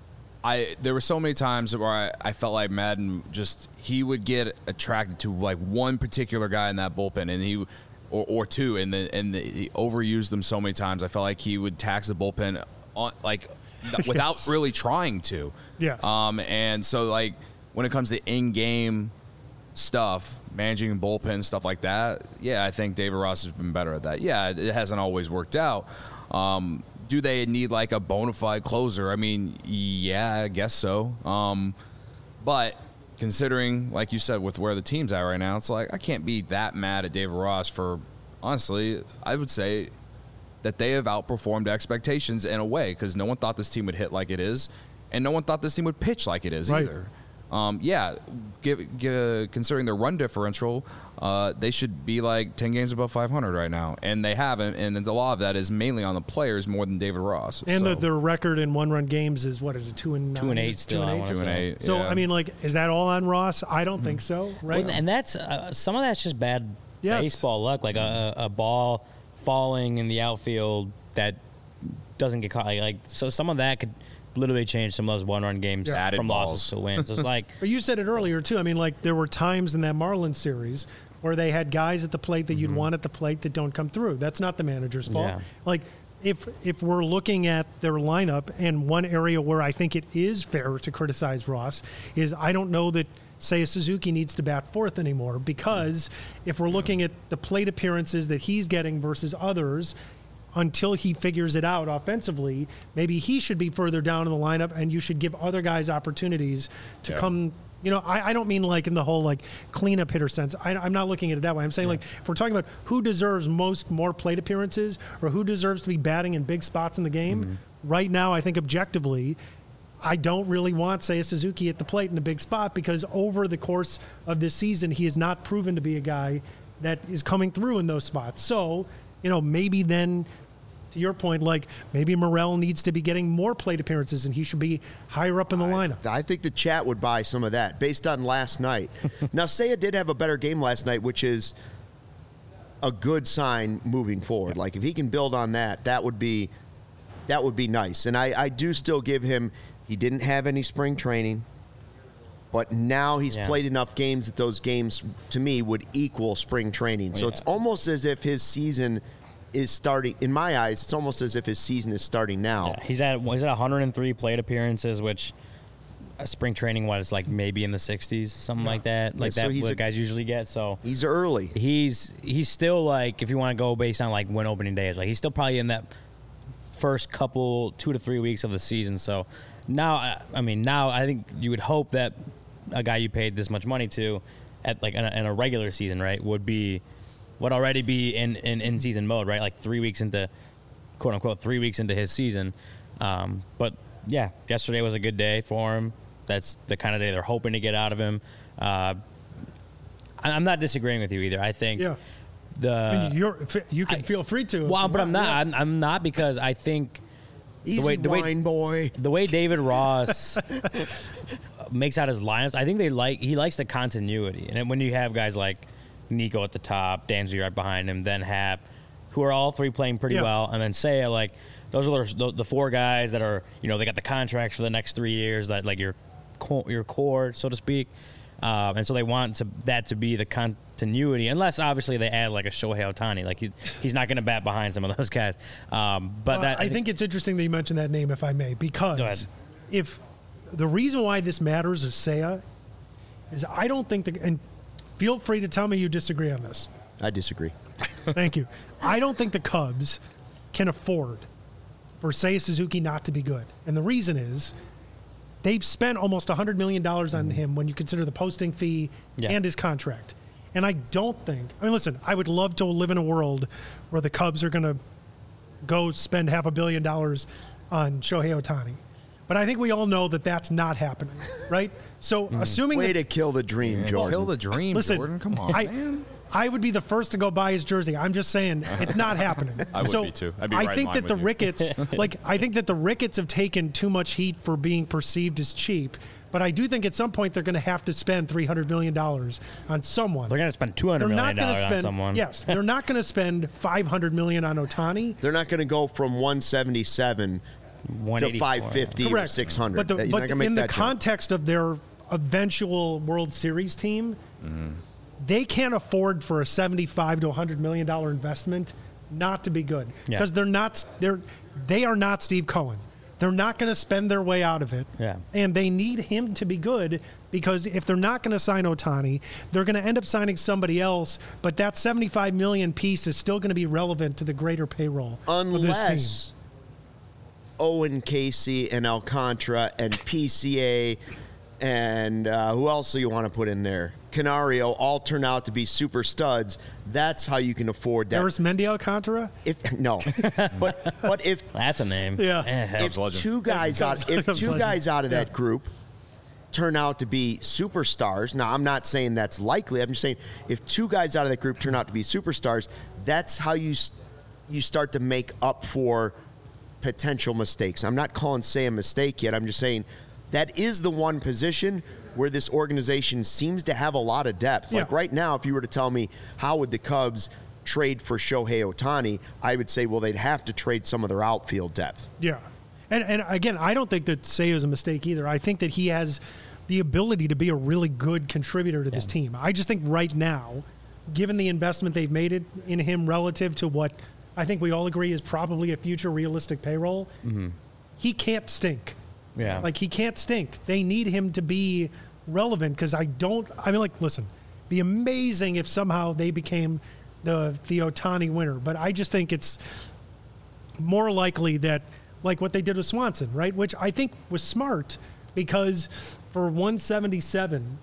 I there were so many times where I, I felt like Madden just he would get attracted to like one particular guy in that bullpen and he or, or two and then and the, he overused them so many times I felt like he would tax the bullpen on like without Yes. really trying to. Yes. Um and so like when it comes to in-game stuff, managing bullpen stuff like that, yeah, I think David Ross has been better at that. Yeah, it hasn't always worked out. Um, do they need like a bona fide closer? I mean, yeah, I guess so. Um, but considering, like you said, with where the team's at right now, it's like I can't be that mad at David Ross for, honestly, I would say that they have outperformed expectations in a way because no one thought this team would hit like it is, and no one thought this team would pitch like it is Right. either. Um, yeah, give, give, considering their run differential, uh, they should be like ten games above five hundred right now, and they haven't. And a lot of that is mainly on the players more than David Ross. And so. the, their record in one-run games is what is it? Two and Two and nine? eight still. Two I and wanna eight. Two and say. eight. So yeah. I mean, like, is that all on Ross? I don't think so. Right? Well, and that's uh, some of that's just bad Yes. baseball luck, like a, a ball falling in the outfield that doesn't get caught. Like, like so, some of that could literally change some of those one-run games Yeah. Added from balls. losses to wins. So it's like, But you said it earlier too. I mean, like there were times in that Marlins series where they had guys at the plate that you'd Mm-hmm. want at the plate that don't come through. That's not the manager's fault. Yeah. Like if if we're looking at their lineup, and one area where I think it is fair to criticize Ross is I don't know that Seiya Suzuki needs to bat fourth anymore, because if we're looking at the plate appearances that he's getting versus others, until he figures it out offensively, maybe he should be further down in the lineup, and you should give other guys opportunities to Yeah. come. You know, I, I don't mean like in the whole like cleanup hitter sense. I, I'm not looking at it that way. I'm saying like if we're talking about who deserves most more plate appearances or who deserves to be batting in big spots in the game, Mm-hmm. right now I think objectively, I don't really want Seiya Suzuki at the plate in a big spot, because over the course of this season he has not proven to be a guy that is coming through in those spots. So, you know, maybe then, to your point, like maybe Morel needs to be getting more plate appearances and he should be higher up in the lineup. I think the chat would buy some of that based on last night. Now, Seiya did have a better game last night, which is a good sign moving forward. Like if he can build on that, that would be that would be nice. And I, I do still give him. He didn't have any spring training, but now he's Yeah. played enough games that those games, to me, would equal spring training. So Yeah. it's almost as if his season is starting. In my eyes, it's almost as if his season is starting now. yeah, he's at he's at one hundred three plate appearances, which uh, spring training was like maybe in the sixties, something like that. Like so that, he's what a- guys usually get. So He's early. he's he's still like, if you want to go based on like when opening day is, like he's still probably in that first couple two to three weeks of the season. So now, I- I mean, now I think you would hope that a guy you paid this much money to, at like in a, in a regular season, right, would be would already be in, in in season mode, right? Like three weeks into, quote unquote, three weeks into his season. Um, but yeah, yesterday was a good day for him. That's the kind of day they're hoping to get out of him. Uh, I- I'm not disagreeing with you either. I think Yeah. the And you're, you can I- feel free to. if well, you but I'm want. not. Yeah. I'm, I'm not, because I think Easy way- the way- wine boy. the way David Ross makes out his lineups, I think they like he likes the continuity. And then when you have guys like Nico at the top, Dansby right behind him, then Hap, who are all three playing pretty Yeah. well, and then Seiya, like those are the, the four guys that are, you know, they got the contracts for the next three years, that like your co- your core, so to speak. Um, and so they want to, that to be the continuity, unless obviously they add like a Shohei Ohtani. Like he, he's not going to bat behind some of those guys. Um, but Uh, that I think it's interesting that you mentioned that name, if I may, Go ahead. because if the reason why this matters is Seiya, is I don't think the, and feel free to tell me you disagree on this. I disagree. Thank you. I don't think the Cubs can afford for Seiya Suzuki not to be good. And the reason is they've spent almost one hundred million dollars on him when you consider the posting fee Yeah. and his contract. And I don't think, I mean, listen, I would love to live in a world where the Cubs are going to go spend half a billion dollars on Shohei Ohtani. But I think we all know that that's not happening, right? So assuming Way that, to kill the dream, Jordan. Kill the dream, listen, Jordan. Come on, I, man. I would be the first to go buy his jersey. I'm just saying it's not happening. I would so be too. I'd be I right in think line that the with you. Ricketts, like I think that the Ricketts have taken too much heat for being perceived as cheap. But I do think at some point they're going to have to spend three hundred million dollars on someone. they're going to spend two hundred They're million not going to dollars spend. on someone. Yes, they're not going to spend five hundred million dollars on Otani. They're not going to go from one seventy-seven to one eighty-four. five fifty or Correct. six hundred. But, the, You're but not gonna make in the that jump. context of their eventual World Series team, they can't afford for a seventy-five to one hundred million dollar investment not to be good, Yeah. because they're not they're they are not Steve Cohen. They're not going to spend their way out of it. Yeah. And they need him to be good, because if they're not going to sign Otani, they're going to end up signing somebody else, but that seventy-five million piece is still going to be relevant to the greater payroll of this team. Unless Owen Casey and Alcantara and P C A and uh, who else do you want to put in there? Canario all turn out to be super studs. That's how you can afford that. Eris Mendy Alcantara? If no, but but if That's a name. Yeah. Eh, if legend. two guys out if Cubs two legend. guys out of Yeah. that group turn out to be superstars. Now, I'm not saying that's likely. I'm just saying if two guys out of that group turn out to be superstars, that's how you you start to make up for potential mistakes. I'm not calling say a mistake yet. I'm just saying that is the one position where this organization seems to have a lot of depth. Yeah. Like right now, if you were to tell me how would the Cubs trade for Shohei Ohtani, I would say, well, they'd have to trade some of their outfield depth. Yeah. And, and again, I don't think that Seiya is a mistake either. I think that he has the ability to be a really good contributor to this team. I just think right now, given the investment they've made it in him relative to what I think we all agree is probably a future realistic payroll, mm-hmm. he can't stink. Yeah. Like, he can't stink. They need him to be relevant because I don't – I mean, like, listen, be amazing if somehow they became the, the Ohtani winner. But I just think it's more likely that – like what they did with Swanson, right? Which I think was smart because for one seventy-seven,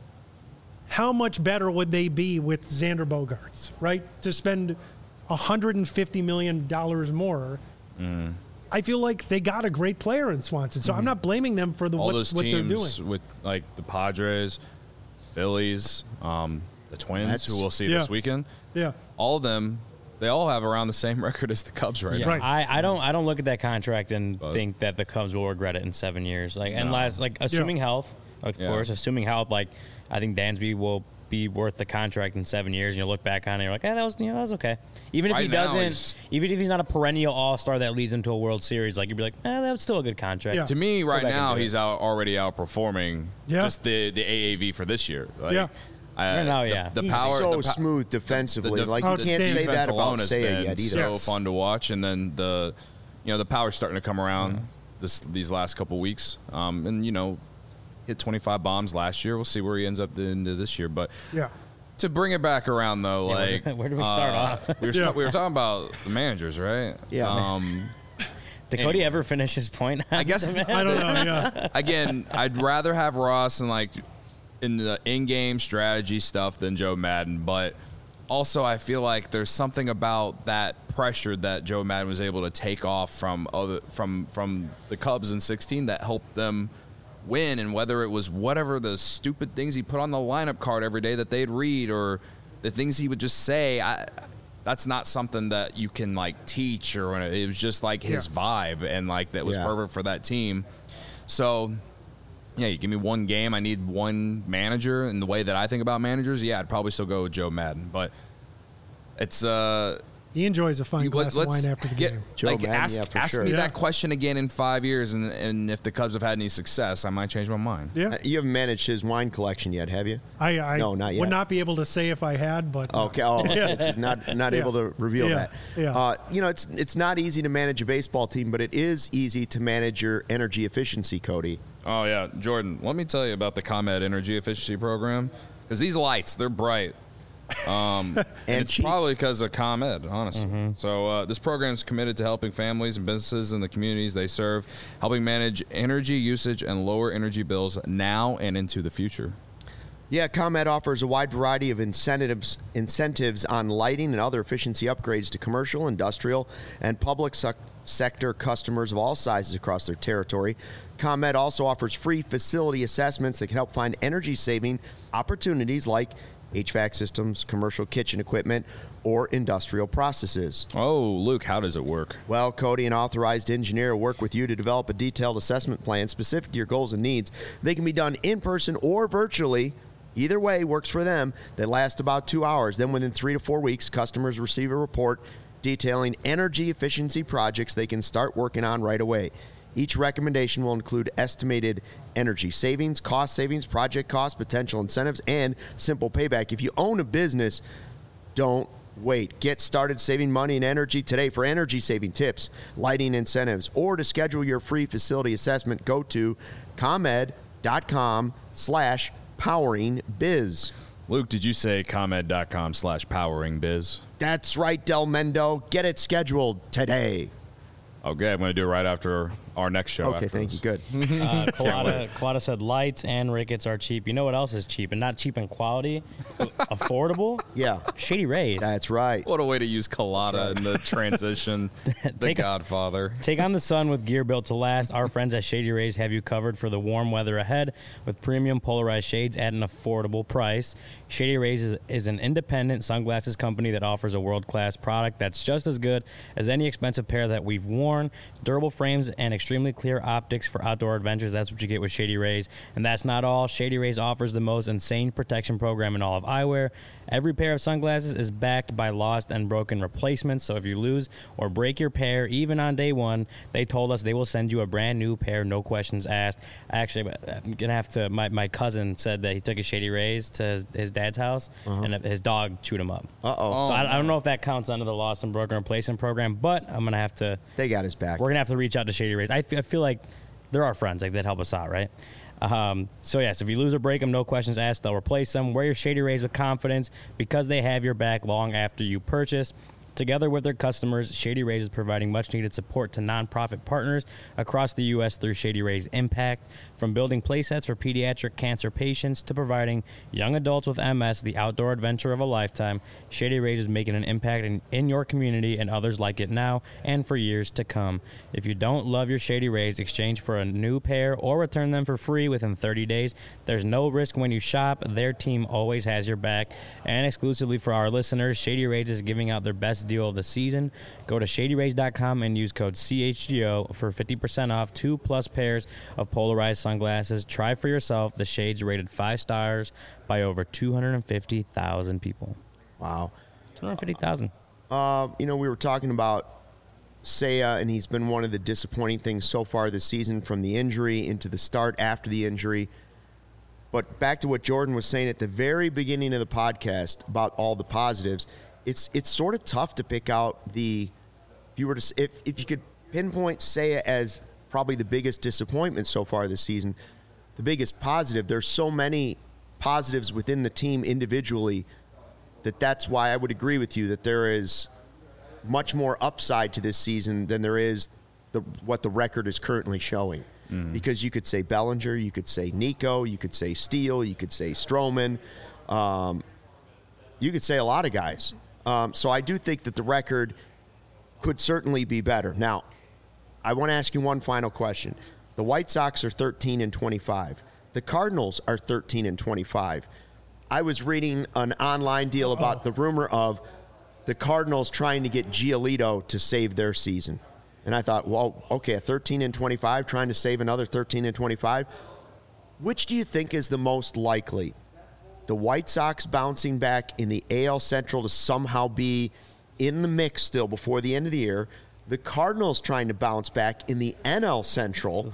how much better would they be with Xander Bogaerts, right? To spend one hundred fifty million dollars more. Mm. I feel like they got a great player in Swanson, so mm. I'm not blaming them for the all what, those what they're teams doing. with like the Padres, Phillies, um, the Twins, That's, who we'll see yeah. this weekend. Yeah, all of them. They all have around the same record as the Cubs right yeah, now. Right. I, I don't I don't look at that contract and But, think that the Cubs will regret it in seven years. Like No. unless like assuming Yeah. health, of Yeah. course, assuming health. Like I think Dansby will be worth the contract in seven years. And you'll look back on it, and you're like, eh, that was you know that was okay. Even if Right he now, doesn't, he's- even if he's not a perennial All Star that leads him to a World Series, like you'd be like, eh, that was still a good contract. Yeah. To me, right back and now, do it. he's out already outperforming Yeah. just the, the A A V for this year. Like, Yeah. I, Right now, the, yeah. The He's power, so the pa- smooth defensively. the def- like, you Oh, can't it's say defense that about alone has Seiya been yet either. so Yes. fun to watch, and then the, you know, the power's starting to come around this these last couple weeks, um, and you know, hit twenty-five bombs last year. We'll see where he ends up the end of this year, but yeah. to bring it back around though, Yeah, like where- where do we start uh, off? We were, Yeah. sta- we were talking about the managers, right? Yeah. Um, Did Cody ever finish his point? I guess I don't know. Yeah. again, I'd rather have Ross and like in the in-game strategy stuff than Joe Madden, but also I feel like there's something about that pressure that Joe Madden was able to take off from other from from the Cubs in sixteen that helped them win, and whether it was whatever the stupid things he put on the lineup card every day that they'd read or the things he would just say, I that's not something that you can like teach, or it was just like his Yeah. vibe, and like that was Yeah. perfect for that team. So yeah, you give me one game, I need one manager, and the way that I think about managers, yeah, I'd probably still go with Joe Madden, but it's uh He enjoys a fine you- glass of wine after the get, game. Joe like Madden, ask, yeah, for ask sure. me Yeah. that question again in five years, and and if the Cubs have had any success, I might change my mind. Yeah. Uh, You haven't managed his wine collection yet, have you? I, I No, not yet. would not be able to say if I had, but Okay. Oh, it's not not Yeah. able to reveal Yeah. that. Yeah. Uh, you know, it's it's not easy to manage a baseball team, but it is easy to manage your energy efficiency, Cody. Oh yeah, Jordan. Let me tell you about the ComEd Energy Efficiency Program, because these lights, they're bright. Um, and, And it's cheap. probably because of ComEd, honestly. So uh, this program is committed to helping families and businesses in the communities they serve, helping manage energy usage and lower energy bills now and into the future. Yeah, ComEd offers a wide variety of incentives incentives on lighting and other efficiency upgrades to commercial, industrial, and public sec- sector customers of all sizes across their territory. ComEd also offers free facility assessments that can help find energy-saving opportunities like H V A C systems, commercial kitchen equipment, or industrial processes. Oh, Luke, how does it work? Well, Cody, an authorized engineer, will work with you to develop a detailed assessment plan specific to your goals and needs. They can be done in person or virtually. Either way works for them. They last about two hours. Then within three to four weeks, customers receive a report detailing energy efficiency projects they can start working on right away. Each recommendation will include estimated energy savings, cost savings, project costs, potential incentives, and simple payback. If you own a business, don't wait. Get started saving money and energy today. For energy saving tips, lighting incentives, or to schedule your free facility assessment, go to ComEd.com slash powering biz. Luke, did you say ComEd.com slash powering biz? That's right, Del Mendo. Get it scheduled today. Okay, I'm going to do it right after our next show. Okay, after thank this. you. Good. Uh, Colada, Colada said lights and rickets are cheap. You know what else is cheap? And not cheap in quality, affordable? Yeah, Shady Rays. that's right. What a way to use Colada in the transition. the Take a- Godfather. Take on the sun with gear built to last. Our friends at Shady Rays have you covered for the warm weather ahead with premium polarized shades at an affordable price. Shady Rays is, is an independent sunglasses company that offers a world-class product that's just as good as any expensive pair that we've worn. Durable frames and extremely clear optics for outdoor adventures. That's what you get with Shady Rays. And that's not all. Shady Rays offers the most insane protection program in all of eyewear. Every pair of sunglasses is backed by lost and broken replacements. So if you lose or break your pair, even on day one, they told us they will send you a brand new pair, no questions asked. Actually, I'm going to have to, my, my cousin said that he took his Shady Rays to his, his dad's house, uh-huh. and his dog chewed him up. Uh-oh. So I, I don't know if that counts under the lost and broken replacement program, but I'm going to have to. They got his back. We're going to have to reach out to Shady Rays. I, f- I feel like they're our friends, like that help us out, right? Um, so, yes, if you lose or break them, no questions asked, they'll replace them. Wear your Shady Rays with confidence because they have your back long after you purchase. Together with their customers, Shady Rays is providing much-needed support to nonprofit partners across the U S through Shady Rays Impact. From building playsets for pediatric cancer patients to providing young adults with M S the outdoor adventure of a lifetime, Shady Rays is making an impact in, in your community and others like it now and for years to come. If you don't love your Shady Rays, exchange for a new pair or return them for free within thirty days. There's no risk when you shop. Their team always has your back. And exclusively for our listeners, Shady Rays is giving out their best deal of the season. Go to shady rays dot com and use code C H G O for fifty percent off two plus pairs of polarized sunglasses. Try for yourself. The shades rated five stars by over two hundred fifty thousand people. Wow. two hundred fifty thousand. Uh, you know, we were talking about Seiya, and he's been one of the disappointing things so far this season, from the injury into the start after the injury. But back to what Jordan was saying at the very beginning of the podcast about all the positives, it's it's sort of tough to pick out the, if you were to, if, if you could pinpoint Seiya as probably the biggest disappointment so far this season, the biggest positive. There's so many positives within the team individually that that's why I would agree with you that there is much more upside to this season than there is the what the record is currently showing. Mm-hmm. Because you could say Bellinger, you could say Nico, you could say Steele, you could say Stroman, um, you could say a lot of guys. Um, so I do think that the record could certainly be better. Now, I want to ask you one final question. The White Sox are thirteen and twenty-five. The Cardinals are thirteen and twenty-five. I was reading an online deal about the rumor of the Cardinals trying to get Giolito to save their season. And I thought, well, okay, a thirteen and twenty-five trying to save another thirteen and twenty-five. Which do you think is the most likely? The White Sox bouncing back in the A L Central to somehow be in the mix still before the end of the year, the Cardinals trying to bounce back in the N L Central,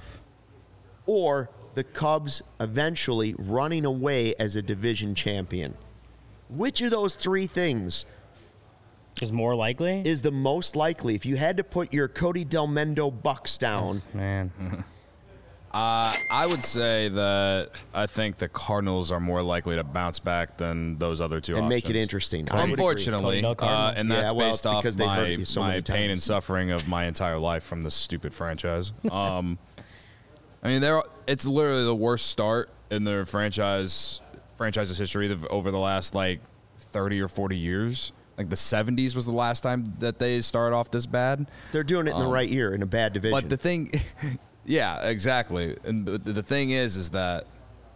or the Cubs eventually running away as a division champion? Which of those three things is more likely? Is the most likely? If you had to put your Cody Delmendo Bucks down. Oh, man. Uh, I would say that I think the Cardinals are more likely to bounce back than those other two and options. make it interesting. I would Unfortunately, agree. uh, and that's Yeah, well, based it's off because they hurt my, you so my many pain times. and suffering of my entire life from this stupid franchise. Um, I mean, they're, it's literally the worst start in their franchise franchise's history of, over the last like thirty or forty years. Like the seventies was the last time that they started off this bad. They're doing it in the Um, right year in a bad division. But the thing, yeah, exactly. And the, the thing is, is that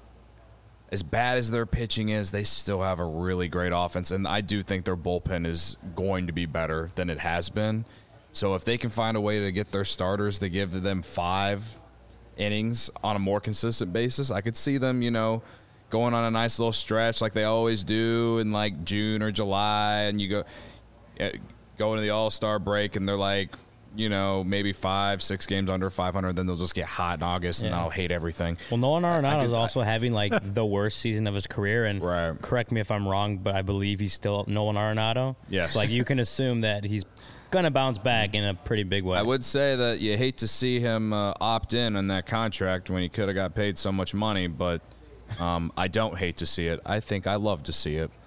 as bad as their pitching is, they still have a really great offense. And I do think their bullpen is going to be better than it has been. So if they can find a way to get their starters to give them five innings on a more consistent basis, I could see them, you know, going on a nice little stretch like they always do in like June or July, and you go go into the All-Star break and they're like, you know, maybe five, six games under five hundred, then they'll just get hot in August and Yeah. I'll hate everything. Well, Nolan Arenado is could- also having like the worst season of his career, and Right. correct me if I'm wrong, but I believe he's still Nolan Arenado. Yes. So, like you can assume that he's gonna bounce back in a pretty big way. I would say that you hate to see him uh, opt in on that contract when he could have got paid so much money, but um, I don't hate to see it. I think I love to see it.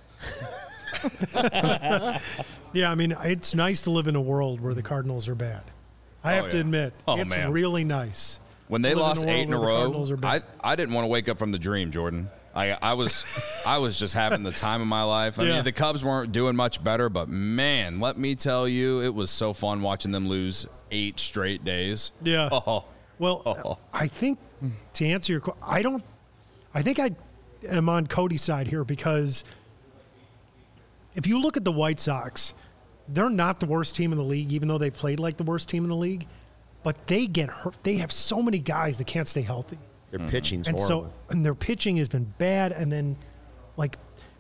Yeah, I mean, it's nice to live in a world where the Cardinals are bad. I have Oh, to yeah. admit, Oh, it's man. really nice. When they Live in a lost world eight in a where the row, Cardinals are I, bad. I didn't want to wake up from the dream, Jordan. I I was I was just having the time of my life. I Yeah. mean, the Cubs weren't doing much better, but man, let me tell you, it was so fun watching them lose eight straight days. Yeah. Oh, Well, Oh. I think to answer your question, I don't. I think I am on Cody's side here because if you look at the White Sox, they're not the worst team in the league, even though they played like the worst team in the league. But they get hurt. They have so many guys that can't stay healthy, Their pitching's and horrible. so and their pitching has been bad. And then, like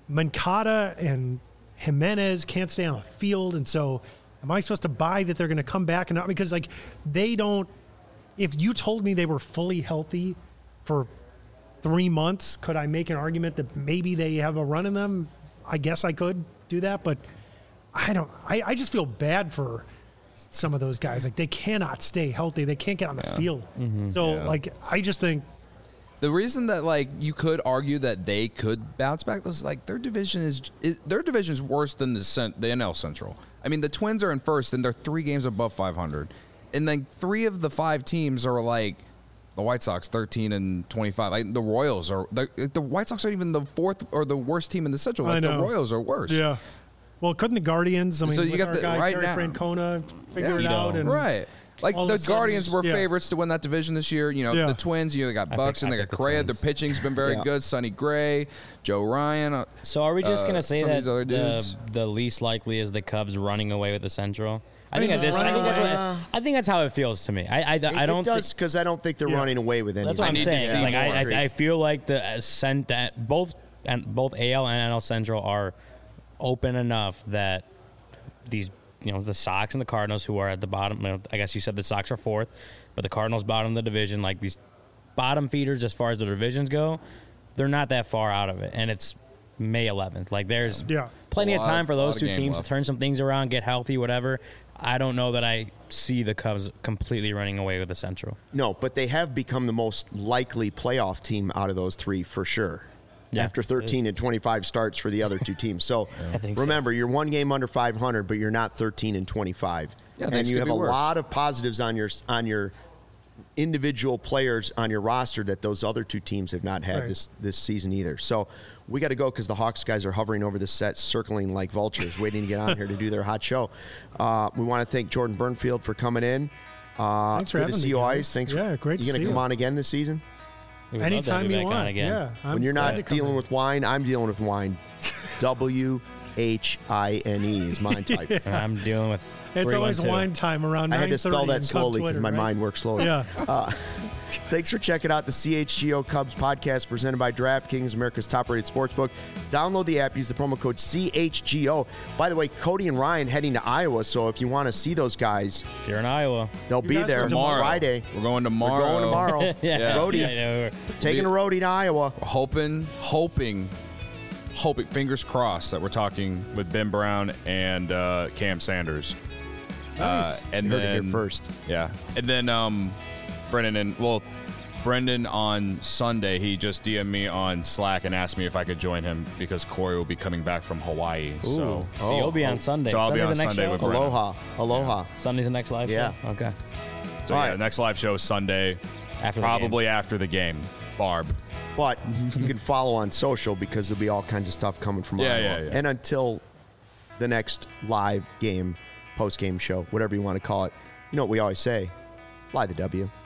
Mancada and Jimenez can't stay on the field, and so am I supposed to buy that they're going to come back and not because like they don't. If you told me they were fully healthy for three months, could I make an argument that maybe they have a run in them? I guess I could do that, but I don't. I, I just feel bad for some of those guys. Like they cannot stay healthy. They can't get on the field. So Yeah. like I just think the reason that like you could argue that they could bounce back was like their division is, is their division is worse than the cent, the N L Central. I mean, the Twins are in first and they're three games above five hundred, and then three of the five teams are like the White Sox, thirteen and twenty-five. Like the Royals are the, the White Sox aren't even the fourth or the worst team in the Central. I Like the know. Royals are worse. yeah. Well, couldn't the Guardians? I mean, So you with got our the- guy right Terry now- Francona figure it Yeah. out and Right. Like all the of a sudden, Guardians were yeah. favorites to win that division this year. You know, Yeah. the Twins, you know, they got I Bucks pick- and I they got pick the Correa. Their Twins. pitching's been very Yeah. good. Sonny Gray, Joe Ryan. uh, So are we just Uh, gonna say some of that these other the, dudes. the least likely is the Cubs running away with the Central? I, I think mean, at this, I running think, that's away- what, I think that's how it feels to me. I I, It, I don't. it does thi- because I don't think they're Yeah. running away with anything. that's what I I'm need to saying. see It's like more. I, I I feel like the uh, cent that both and both A L and N L Central are open enough that these you know the Sox and the Cardinals, who are at the bottom. You know, I guess you said the Sox are fourth, but the Cardinals bottom of the division. Like these bottom feeders as far as the divisions go, they're not that far out of it, and it's May eleventh. Like there's yeah. plenty A of lot- time for lot those of two game teams left. to turn some things around, get healthy, whatever. I don't know that I see the Cubs completely running away with the Central. No, but they have become the most likely playoff team out of those three for sure. Yeah. After thirteen and twenty-five starts for the other two teams. So I think so. remember, you're one game under five hundred, but you're not thirteen and twenty-five. Yeah, and things you could have be a worse. lot of positives on your on your individual players on your roster that those other two teams have not had Right. this this season either. So we got to go because the Hawks guys are hovering over the set, circling like vultures, waiting to get on here to do their hot show. Uh, we want to thank Jordan Burnfield for coming in. Uh, Thanks for good having to see me, you guys. always. Thanks. Yeah, great You to gonna see come you. on again this season? We would love to have Anytime you you back on want. again. Yeah. I'm When you're glad not to come dealing in. with wine, I'm dealing with wine. W H I N E is mine type. And I'm dealing with. It's always three one two. wine time around I nine had thirty. to spell that slowly because my mind works slowly. Yeah. Uh, thanks for checking out the C H G O Cubs podcast presented by DraftKings, America's top-rated sportsbook. Download the app. Use the promo code C H G O. By the way, Cody and Ryan heading to Iowa, so if you want to see those guys, If you're in Iowa. they'll You be guys there are Tomorrow. Friday. We're going tomorrow. We're going tomorrow. yeah. Roadie. Yeah, yeah, Taking a roadie to Iowa. Hoping, hoping, hoping, fingers crossed that we're talking with Ben Brown and uh, Cam Sanders. Nice. Uh, and You heard it here then first. Yeah, and then um, Brendan and well, Brendan on Sunday he just D M'd me on Slack and asked me if I could join him because Corey will be coming back from Hawaii. Ooh. So, So you'll be on Sunday. So I'll be Sunday's on the next Sunday show? with Brendan. Aloha. Aloha. Sunday's the next live Yeah. show? Okay. So All yeah, right. next live show is Sunday, After the probably after the game. Barb. But you can follow on social because there'll be all kinds of stuff coming from Yeah, Iowa. yeah, yeah. And until the next live game, post-game show, whatever you want to call it, you know what we always say, fly the W.